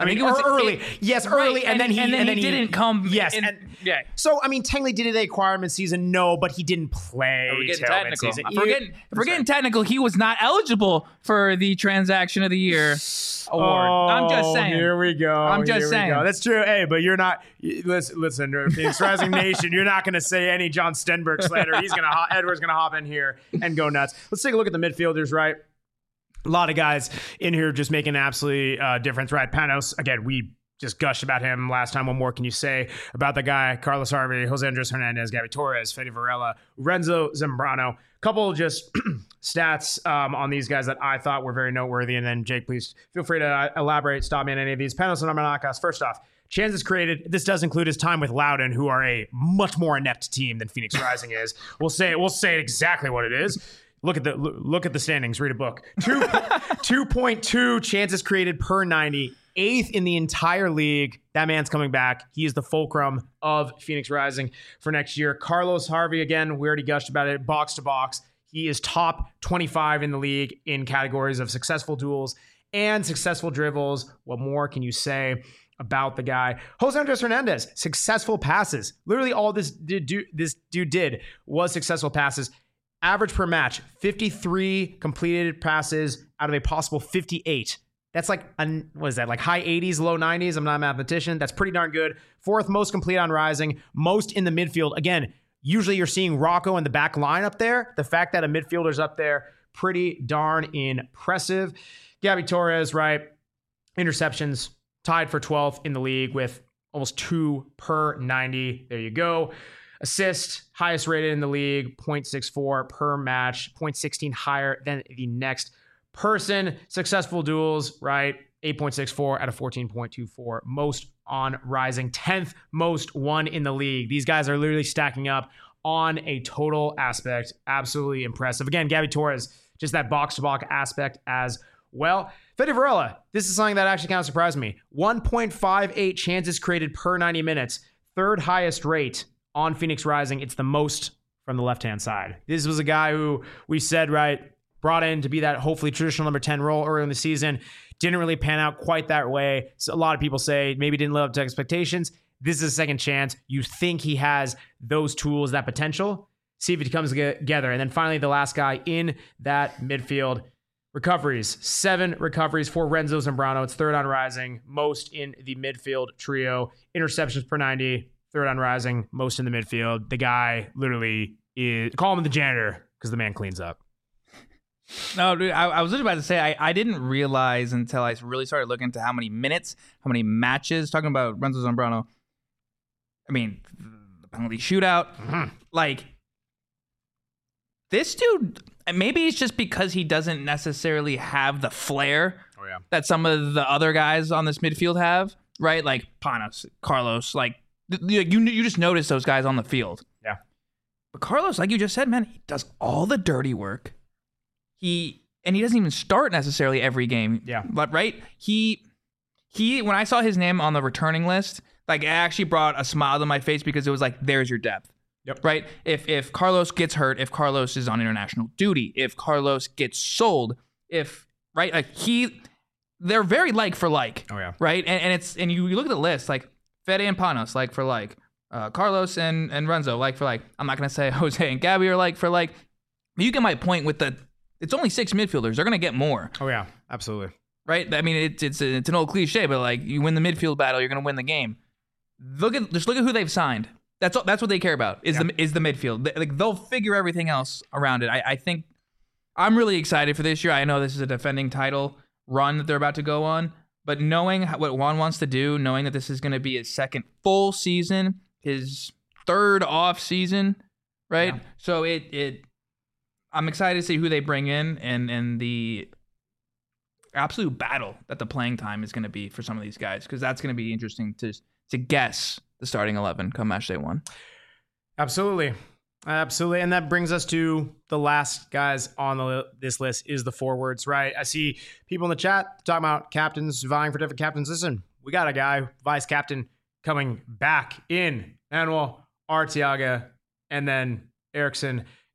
I mean, think it was early. Yes, early, and then he didn't come. Yes, yeah. So I mean, technically, did they acquire him in season? No, but he didn't play. We're getting till technical. mid-season. If we're getting technical, he was not eligible for the Transaction of the Year award. I'm just saying. Here we go. I'm just saying. That's true. Hey, but you're not. Listen, Phoenix Rising Nation. You're not going to say any John Stenberg slander. Edward's going to hop in here and go nuts. Let's take a look at the midfielders. Right. A lot of guys in here just making an absolute difference, right? Panos, again, we just gushed about him last time. What more can you say about the guy? Carlos Harvey, Jose Andres Hernandez, Gabby Torres, Fede Varela, Renzo Zambrano. Couple just stats on these guys that I thought were very noteworthy. And then, Jake, please feel free to elaborate, stop me on any of these. Panos and Armanakas, first off, chances created. This does include his time with Loudoun, who are a much more inept team than Phoenix Rising is. We'll say it exactly what it is. Look at the standings. Read a book. 2.2 chances created per 90. 8th in the entire league. That man's coming back. He is the fulcrum of Phoenix Rising for next year. Carlos Harvey, again, we already gushed about it. Box to box. He is top 25 in the league in categories of successful duels and successful dribbles. What more can you say about the guy? Jose Andres Hernandez, successful passes. Literally all this dude did was successful passes. Average per match, 53 completed passes out of a possible 58. That's like, what is that, like high 80s, low 90s? I'm not a mathematician. That's pretty darn good. 4th most complete on Rising, most in the midfield. Again, usually you're seeing Rocco in the back line up there. The fact that a midfielder's up there, pretty darn impressive. Gabby Torres, right? Interceptions, tied for 12th in the league with almost 2 per 90. There you go. Assist, highest rated in the league, 0.64 per match, 0.16 higher than the next person. Successful duels, right? 8.64 out of 14.24. Most on Rising. 10th most won in the league. These guys are literally stacking up on a total aspect. Absolutely impressive. Again, Gabby Torres, just that box-to-box aspect as well. Fede Varela, this is something that actually kind of surprised me. 1.58 chances created per 90 minutes. 3rd highest rate on Phoenix Rising. It's the most from the left-hand side. This was a guy who we said, right, brought in to be that hopefully traditional number 10 role early in the season. Didn't really pan out quite that way. So a lot of people say maybe didn't live up to expectations. This is a second chance. You think he has those tools, that potential. See if it comes together. And then finally, the last guy in that midfield. Recoveries. 7 recoveries for Renzo Zambrano. It's 3rd on Rising. Most in the midfield trio. Interceptions per 90. 3rd on Rising, most in the midfield. The guy literally is, call him the janitor because the man cleans up. No, dude, I was just about to say, I didn't realize until I really started looking into how many minutes, how many matches, talking about Renzo Zambrano. I mean, the penalty shootout. Like, this dude, maybe it's just because he doesn't necessarily have the flair that some of the other guys on this midfield have, right? Like Panos, Carlos, like, you just notice those guys on the field. Yeah. But Carlos, like you just said, man, he does all the dirty work. He doesn't even start necessarily every game. Yeah. But right? He when I saw his name on the returning list, like it actually brought a smile to my face because it was like, there's your depth. Yep. Right? If Carlos gets hurt, if Carlos is on international duty, if Carlos gets sold, right? Like they're very like for like. Oh yeah. Right? And you look at the list, like Fede and Panos, like for like. Carlos and Renzo, like for like. I'm not going to say Jose and Gabby are like for like. You get my point with it's only 6 midfielders. They're going to get more. Oh, yeah. Absolutely. Right? I mean, it's an old cliche, but like you win the midfield battle, you're going to win the game. Just look at who they've signed. That's what they care about is the midfield. Like they'll figure everything else around it. I think I'm really excited for this year. I know this is a defending title run that they're about to go on. But knowing what Juan wants to do, knowing that this is going to be his 2nd full season, his 3rd off season, right? Yeah. So I'm excited to see who they bring in and the absolute battle that the playing time is going to be for some of these guys, because that's going to be interesting to guess the starting 11 come match day 1. Absolutely. And that brings us to the last guys on this list is the forwards, right? I see people in the chat talking about captains vying for different captains. Listen, we got a guy, vice captain, coming back in. Manuel Arteaga, and then Erickson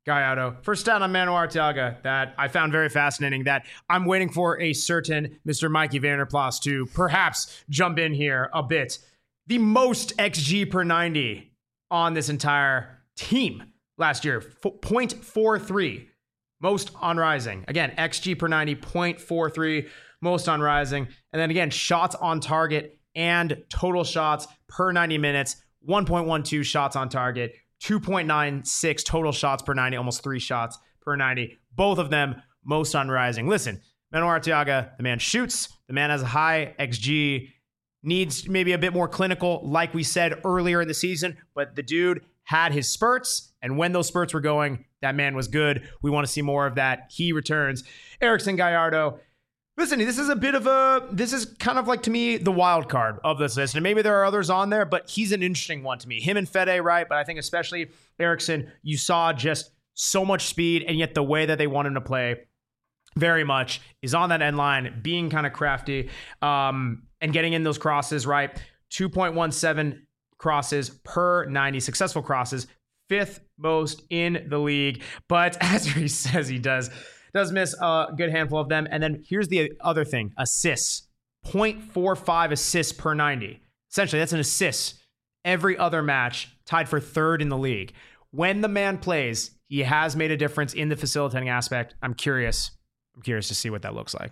Gallardo. First stat on Manu Arteaga that I found very fascinating, that I'm waiting for a certain Mr. Mikey Vanderplas to perhaps jump in here a bit. The most XG per 90 on this entire team last year, 0.43. Most on Rising. Again, XG per 90, 0.43. Most on Rising. And then again, shots on target and total shots per 90 minutes, 1.12 shots on target, 2.96 total shots per 90, almost 3 shots per 90. Both of them most on Rising. Listen, Manu Arteaga, the man shoots, the man has a high XG, needs maybe a bit more clinical, like we said earlier in the season, but the dude had his spurts, and when those spurts were going, that man was good. We want to see more of that. He returns. Erickson Gallardo. Listen, this is kind of like, to me, the wild card of this list. And maybe there are others on there, but he's an interesting one to me. Him and Fede, right? But I think especially Erickson, you saw just so much speed, and yet the way that they want him to play very much is on that end line, being kind of crafty, and getting in those crosses, right? 2.17 crosses per 90, successful crosses, 5th most in the league. But as he says, he does miss a good handful of them. And then here's the other thing, assists, 0.45 assists per 90. Essentially, that's an assist every other match, tied for 3rd in the league. When the man plays, he has made a difference in the facilitating aspect. I'm curious to see what that looks like.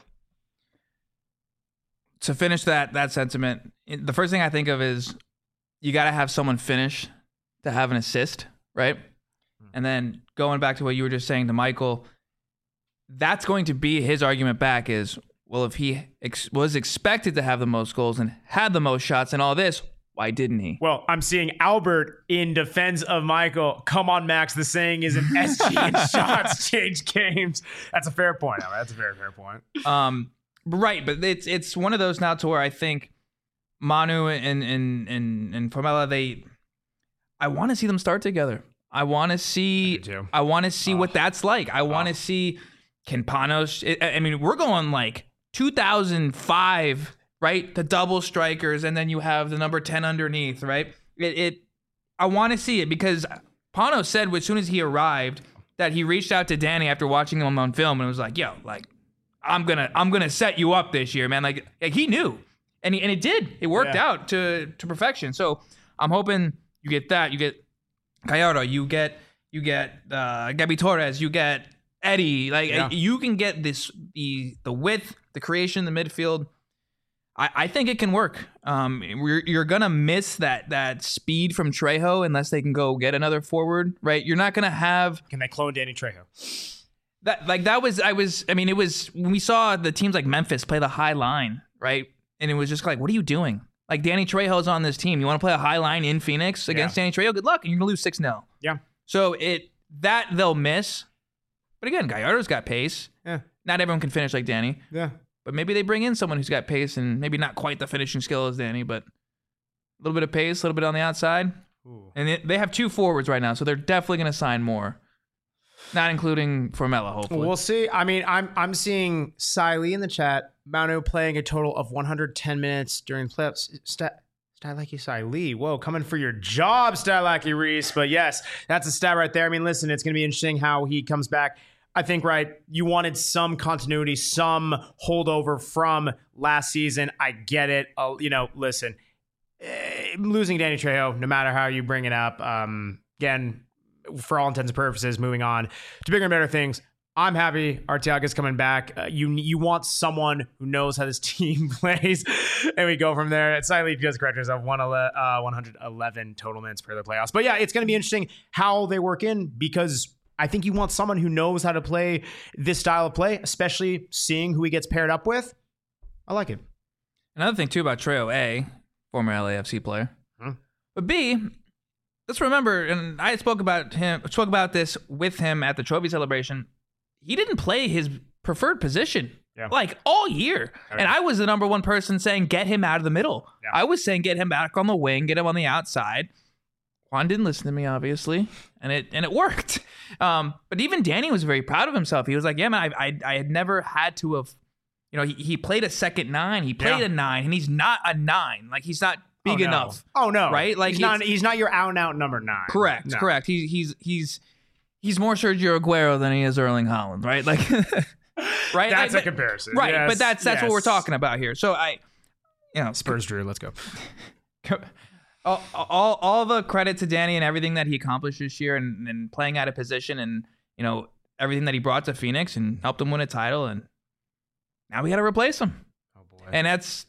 To finish that sentiment, the first thing I think of is you got to have someone finish to have an assist, right? And then going back to what you were just saying to Michael, that's going to be his argument back is, well, if he was expected to have the most goals and had the most shots and all this, why didn't he? Well, I'm seeing Albert in defense of Michael. Come on, Max. The saying is an SG and shots change games. That's a fair point. That's a very fair point. Right, but it's one of those now to where I think Manu and Formella, I want to see them start together. I want to see what that's like. I want to see, can Panos, I mean, we're going like 2005, right? The double strikers, and then you have the number 10 underneath, right? I want to see it because Panos said as soon as he arrived that he reached out to Danny after watching him on film and was like, yo, like, I'm gonna set you up this year, man. Like he knew, and it did. It worked out to perfection. So I'm hoping you get that. You get Gallardo. You get Gabi Torres. You get Eddie. Like you can get the width, the creation, the midfield. I think it can work. You're gonna miss that speed from Trejo unless they can go get another forward, right? You're not gonna have. Can they clone Danny Trejo? It was when we saw the teams like Memphis play the high line, right? And it was just like, what are you doing? Like Danny Trejo's on this team. You want to play a high line in Phoenix against Danny Trejo? Good luck. And you're going to lose 6-0. Yeah. So that they'll miss. But again, Gallardo's got pace. Yeah. Not everyone can finish like Danny. Yeah. But maybe they bring in someone who's got pace and maybe not quite the finishing skill as Danny, but a little bit of pace, a little bit on the outside. Ooh. And they have 2 forwards right now, so they're definitely going to sign more. Not including Formella, hopefully. We'll see. I mean, I'm seeing Cy Lee in the chat. Manu playing a total of 110 minutes during playoffs. Stylaki Cy Lee. Whoa, coming for your job, Stylaki Reese. But yes, that's a stat right there. I mean, listen, it's going to be interesting how he comes back. I think, right, you wanted some continuity, some holdover from last season. I get it. Listen, losing Danny Trejo, no matter how you bring it up, again, for all intents and purposes, moving on to bigger and better things. I'm happy Arteaga's coming back. You want someone who knows how this team plays, and we go from there. Siley does correct herself, 111 total minutes per the playoffs. But yeah, it's going to be interesting how they work in, because I think you want someone who knows how to play this style of play, especially seeing who he gets paired up with. I like it. Another thing too about Trejo, A, former LAFC player, but B, let's remember, and I spoke about this with him at the trophy celebration. He didn't play his preferred position like all year. And I was the number one person saying, get him out of the middle. Yeah. I was saying, get him back on the wing, get him on the outside. Juan didn't listen to me, obviously, and it worked. But even Danny was very proud of himself. He was like, yeah, man, I had never had to have, he played a second 9. He played a 9, and he's not a 9. Like, he's not big enough. Oh no! Right? Like he's not your out and out number 9. Correct. No. Correct. He's he's more Sergio Aguero than he is Erling Haaland, right? Like, right? That's a comparison. Right, Yes, but that's what we're yes. talking about here. So Spurs drew. Let's go. all the credit to Danny and everything that he accomplished this year and playing out of position and, everything that he brought to Phoenix and helped him win a title. And now we got to replace him. Oh boy. And it's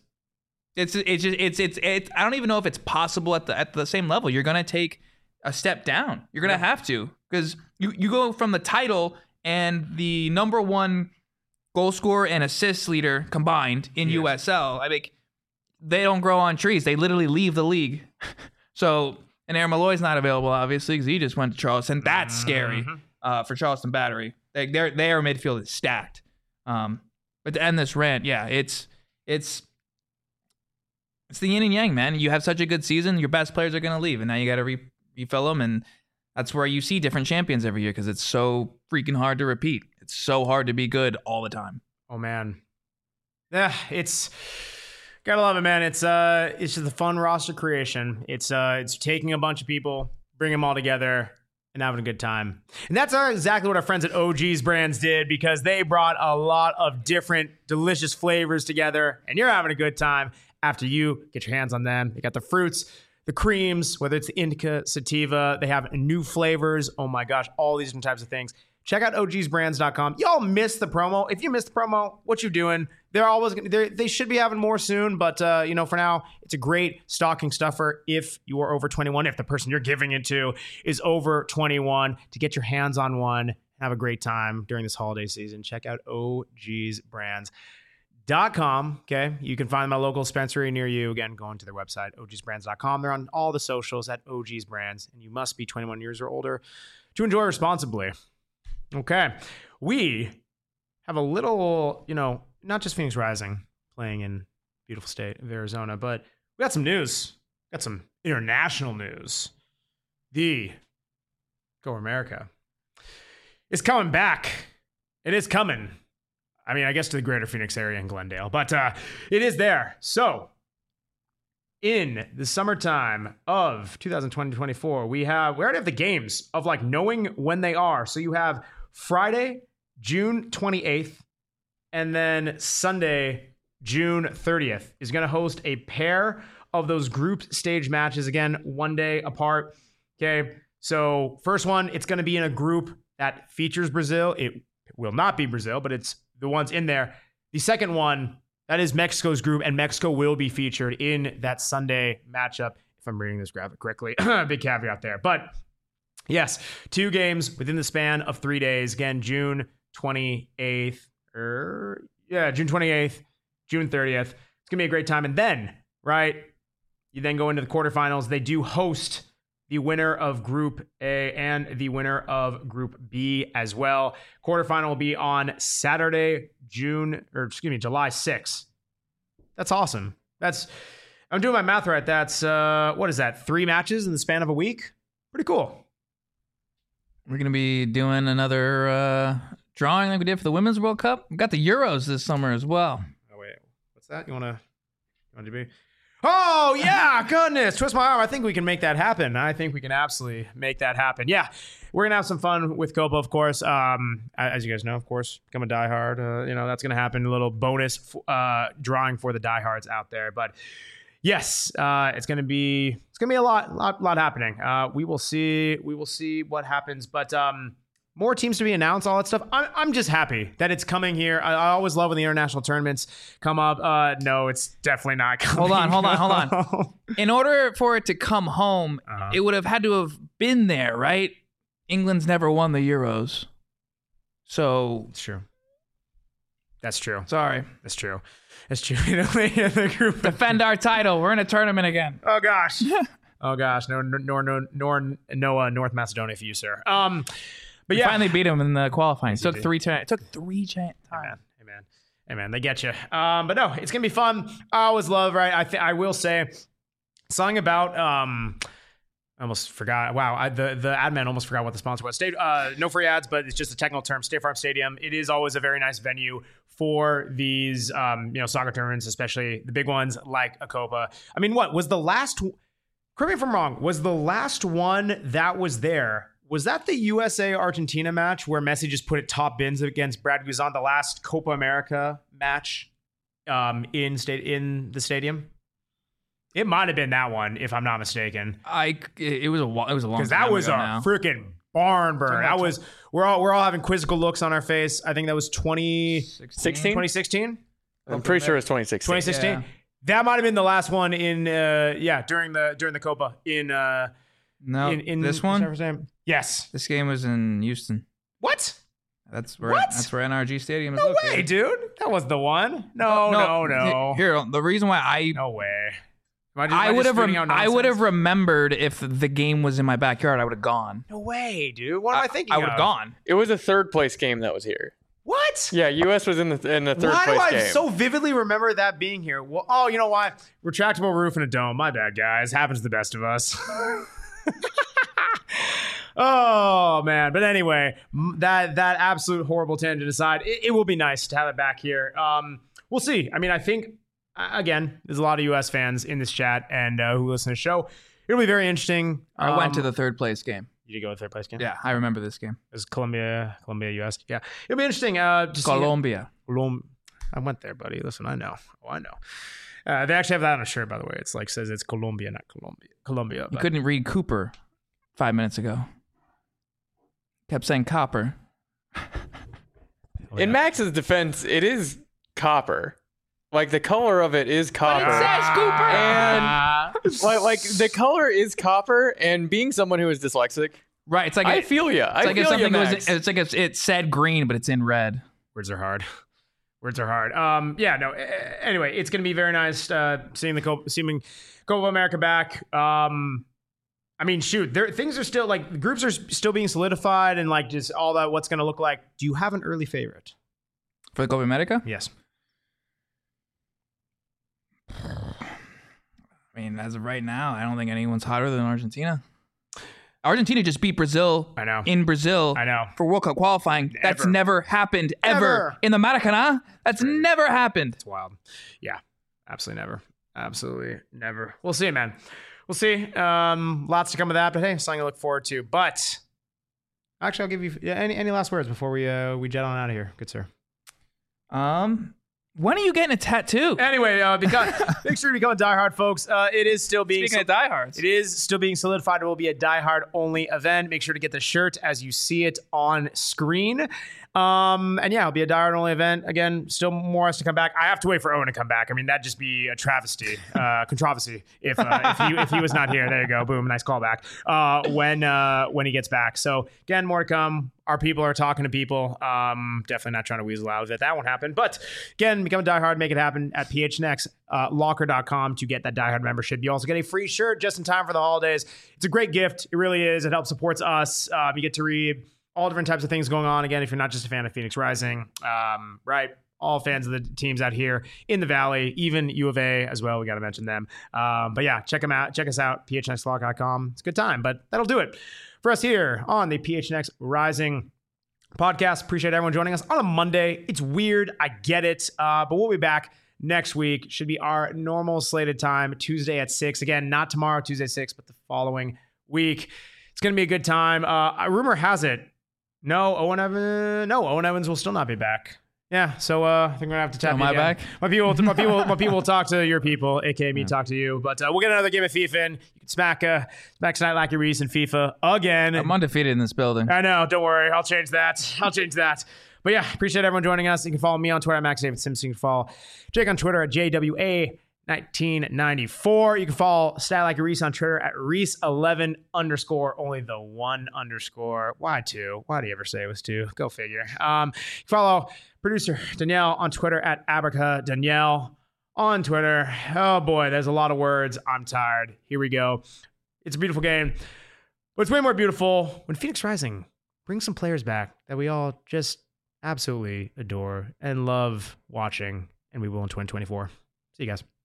I don't even know if it's possible at the same level. You're going to take a step down. You're going to have to, because you go from the title and the number one goal scorer and assist leader combined in USL. I mean, they don't grow on trees. They literally leave the league. So, and Aaron Malloy's not available, obviously, because he just went to Charleston. That's scary for Charleston Battery. Their midfield is stacked. But to end this rant, it's the yin and yang, man. You have such a good season, your best players are going to leave, and now you got to refill them, and that's where you see different champions every year, because it's so freaking hard to repeat. It's so hard to be good all the time. Oh man, yeah, it's gotta love it, man. It's just a fun roster creation. It's taking a bunch of people, bring them all together, and having a good time. And that's exactly what our friends at OG's Brands did, because they brought a lot of different delicious flavors together, and you're having a good time after you get your hands on them. They got the fruits, the creams, whether it's the indica, sativa. They have new flavors. Oh my gosh, all these different types of things. Check out ogsbrands.com. Y'all missed the promo. If you missed the promo, what you doing? They should be having more soon, but for now, it's a great stocking stuffer if you are over 21. If the person you're giving it to is over 21, to get your hands on one, have a great time during this holiday season. Check out ogsbrands.com. Okay, you can find them at a local dispensary near you. Again, going to their website, ogsbrands.com. They're on all the socials at ogsbrands, and you must be 21 years or older to enjoy responsibly. Okay, we have a little, not just Phoenix Rising playing in beautiful state of Arizona, but we got some news. Got some international news. The Go America is coming back. It is coming. I mean, I guess to the greater Phoenix area in Glendale, but it is there. So in the summertime of 2020-24, we already have the games of like knowing when they are. So you have Friday, June 28th, and then Sunday, June 30th is going to host a pair of those group stage matches. Again, 1 day apart. Okay. So first one, it's going to be in a group that features Brazil. It will not be Brazil, but it's the ones in there. The second one, that is Mexico's group, and Mexico will be featured in that Sunday matchup, if I'm reading this graphic correctly. Big caveat there. But yes, 2 games within the span of 3 days. Again, June 28th, June 30th. It's going to be a great time. And then, right, you then go into the quarterfinals. They do host the winner of Group A and the winner of Group B as well. Quarterfinal will be on Saturday, July 6th. That's awesome. I'm doing my math right. That's, what is that? 3 matches in the span of a week? Pretty cool. We're going to be doing another drawing like we did for the Women's World Cup. We got the Euros this summer as well. Oh, wait. What's that? You want to be? Oh, yeah. Goodness. Twist my arm. I think we can make that happen. I think we can absolutely make that happen. Yeah. We're going to have some fun with Copa, of course. As you guys know, of course, become a diehard. That's going to happen. A little bonus drawing for the diehards out there. But yes, it's going to be a lot happening. We will see what happens. But more teams to be announced, all that stuff. I'm just happy that it's coming here. I always love when the international tournaments come up. No, it's definitely not coming. Hold on. In order for it to come home, it would have had to have been there, right? England's never won the Euros. So it's true. That's true. Sorry. That's true. The group defend our title. We're in a tournament again. Oh gosh. No, North Macedonia for you, sir. But yeah, finally beat him in the qualifying. It took 3 times. Hey man, they get you. But no, it's gonna be fun. I always love. Right, I will say something about. I almost forgot. Wow, the ad man almost forgot what the sponsor was. No free ads, but it's just a technical term. State Farm Stadium. It is always a very nice venue for these, soccer tournaments, especially the big ones like a Copa. I mean, what was the last? Correct me if I'm wrong. Was the last one that was there? Was that the USA Argentina match where Messi just put it top bins against Brad Guzan, the last Copa America match in the stadium? It might have been that one, if I'm not mistaken. It was a long time because that was ago a now. freaking barn burn. That was we're all having quizzical looks on our face. I think that was 2016. I'm pretty sure it's 2016. 2016. Yeah. That might have been the last one in during the Copa in No, in this San one. Francisco. Yes. This game was in Houston. What? That's where What? That's where NRG Stadium is No located. way, dude. That was the one. No. Here, the reason why No way. I would have remembered if the game was in my backyard. I would have gone. No way, dude. What am I thinking? I would have gone. It was a third place game that was here. What? Yeah, US was in the third Why place do I game. so vividly remember that being here? Well, oh, you know why? Retractable roof and a dome. My bad, guys. Happens to the best of us. Oh man, but anyway, that absolute horrible tangent aside, it will be nice to have it back here. We'll see. I mean, I think again, there's a lot of U.S. fans in this chat and who listen to the show. It'll be very interesting. I went to the third place game. You did go to the third place game? Yeah, I remember this game. It was Colombia, U.S. Yeah, it'll be interesting. To see- Colombia. I went there, buddy. Listen, I know. Oh, I know. They actually have that on a shirt, by the way. It's like says it's Colombia, not Colombia. You but- couldn't read Cooper 5 minutes ago. Kept saying copper. In Max's defense, it is copper. Like the color of it is copper. Cooper. And like the color is copper. And being someone who is dyslexic, Right. It's like I feel you. I like if feel you, something Max. was. It's like if it said green, but it's in red. Words are hard. Words are hard. Yeah, no. Anyway, it's going to be very nice seeing Copa America back. I mean, shoot, things are still like the groups are still being solidified and like just all that. What's going to look like? Do you have an early favorite? For the Copa America? Yes. I mean, as of right now, I don't think anyone's hotter than Argentina. Argentina just beat Brazil I know. in Brazil I know. for World Cup qualifying. That's Ever. never happened ever Ever. in the Maracanã. That's never happened. It's wild. Yeah, absolutely never. Absolutely never. We'll see, man. We'll see. Lots to come of that, but hey, something to look forward to. But actually, I'll give you any last words before we jet on out of here, good sir. When are you getting a tattoo? Anyway, make sure to become a diehard, folks. It is still being Speaking of diehards. it is still being solidified. It will be a diehard only event. Make sure to get the shirt as you see it on screen. And yeah, it'll be a diehard only event. Again, still more has to come back. I have to wait for Owen to come back. I mean, that'd just be a travesty, controversy if he was not here. There you go. Boom. Nice callback. When he gets back. So again, more to come. Our people are talking to people. Definitely not trying to weasel out of it. That won't happen. But again, become a diehard. Make it happen at phnxlocker.com to get that diehard membership. You also get a free shirt just in time for the holidays. It's a great gift. It really is. It helps supports us. You get to read all different types of things going on. Again, if you're not just a fan of Phoenix Rising, right? All fans of the teams out here in the Valley, even U of A as well. We got to mention them. But yeah, check them out. Check us out, phnxlocker.com. It's a good time, but that'll do it for us here on the PHNX Rising podcast. Appreciate everyone joining us on a Monday. It's weird. I get it. But we'll be back next week. Should be our normal slated time, Tuesday at 6. Again, not tomorrow, Tuesday 6, but the following week. It's going to be a good time. Rumor has it, Owen Evans will still not be back. Yeah, so I think we're gonna have to tap. Am I back? My people will talk to your people, aka me, talk to you. But we'll get another game of FIFA in. You can smack Snight Lackey Reese in FIFA again. I'm undefeated in this building. I know. Don't worry. I'll change that. But yeah, appreciate everyone joining us. You can follow me on Twitter at MaxDavidSims. You can follow Jake on Twitter at JWA1994. You can follow Stat Like a Reese on Twitter at Reese11_. Only the one underscore. Why two? Why do you ever say it was two? Go figure. You can follow producer Danielle on Twitter at Abraca Danielle on Twitter. Oh boy, there's a lot of words. I'm tired. Here we go. It's a beautiful game, but it's way more beautiful when Phoenix Rising brings some players back that we all just absolutely adore and love watching, and we will in 2024. See you guys.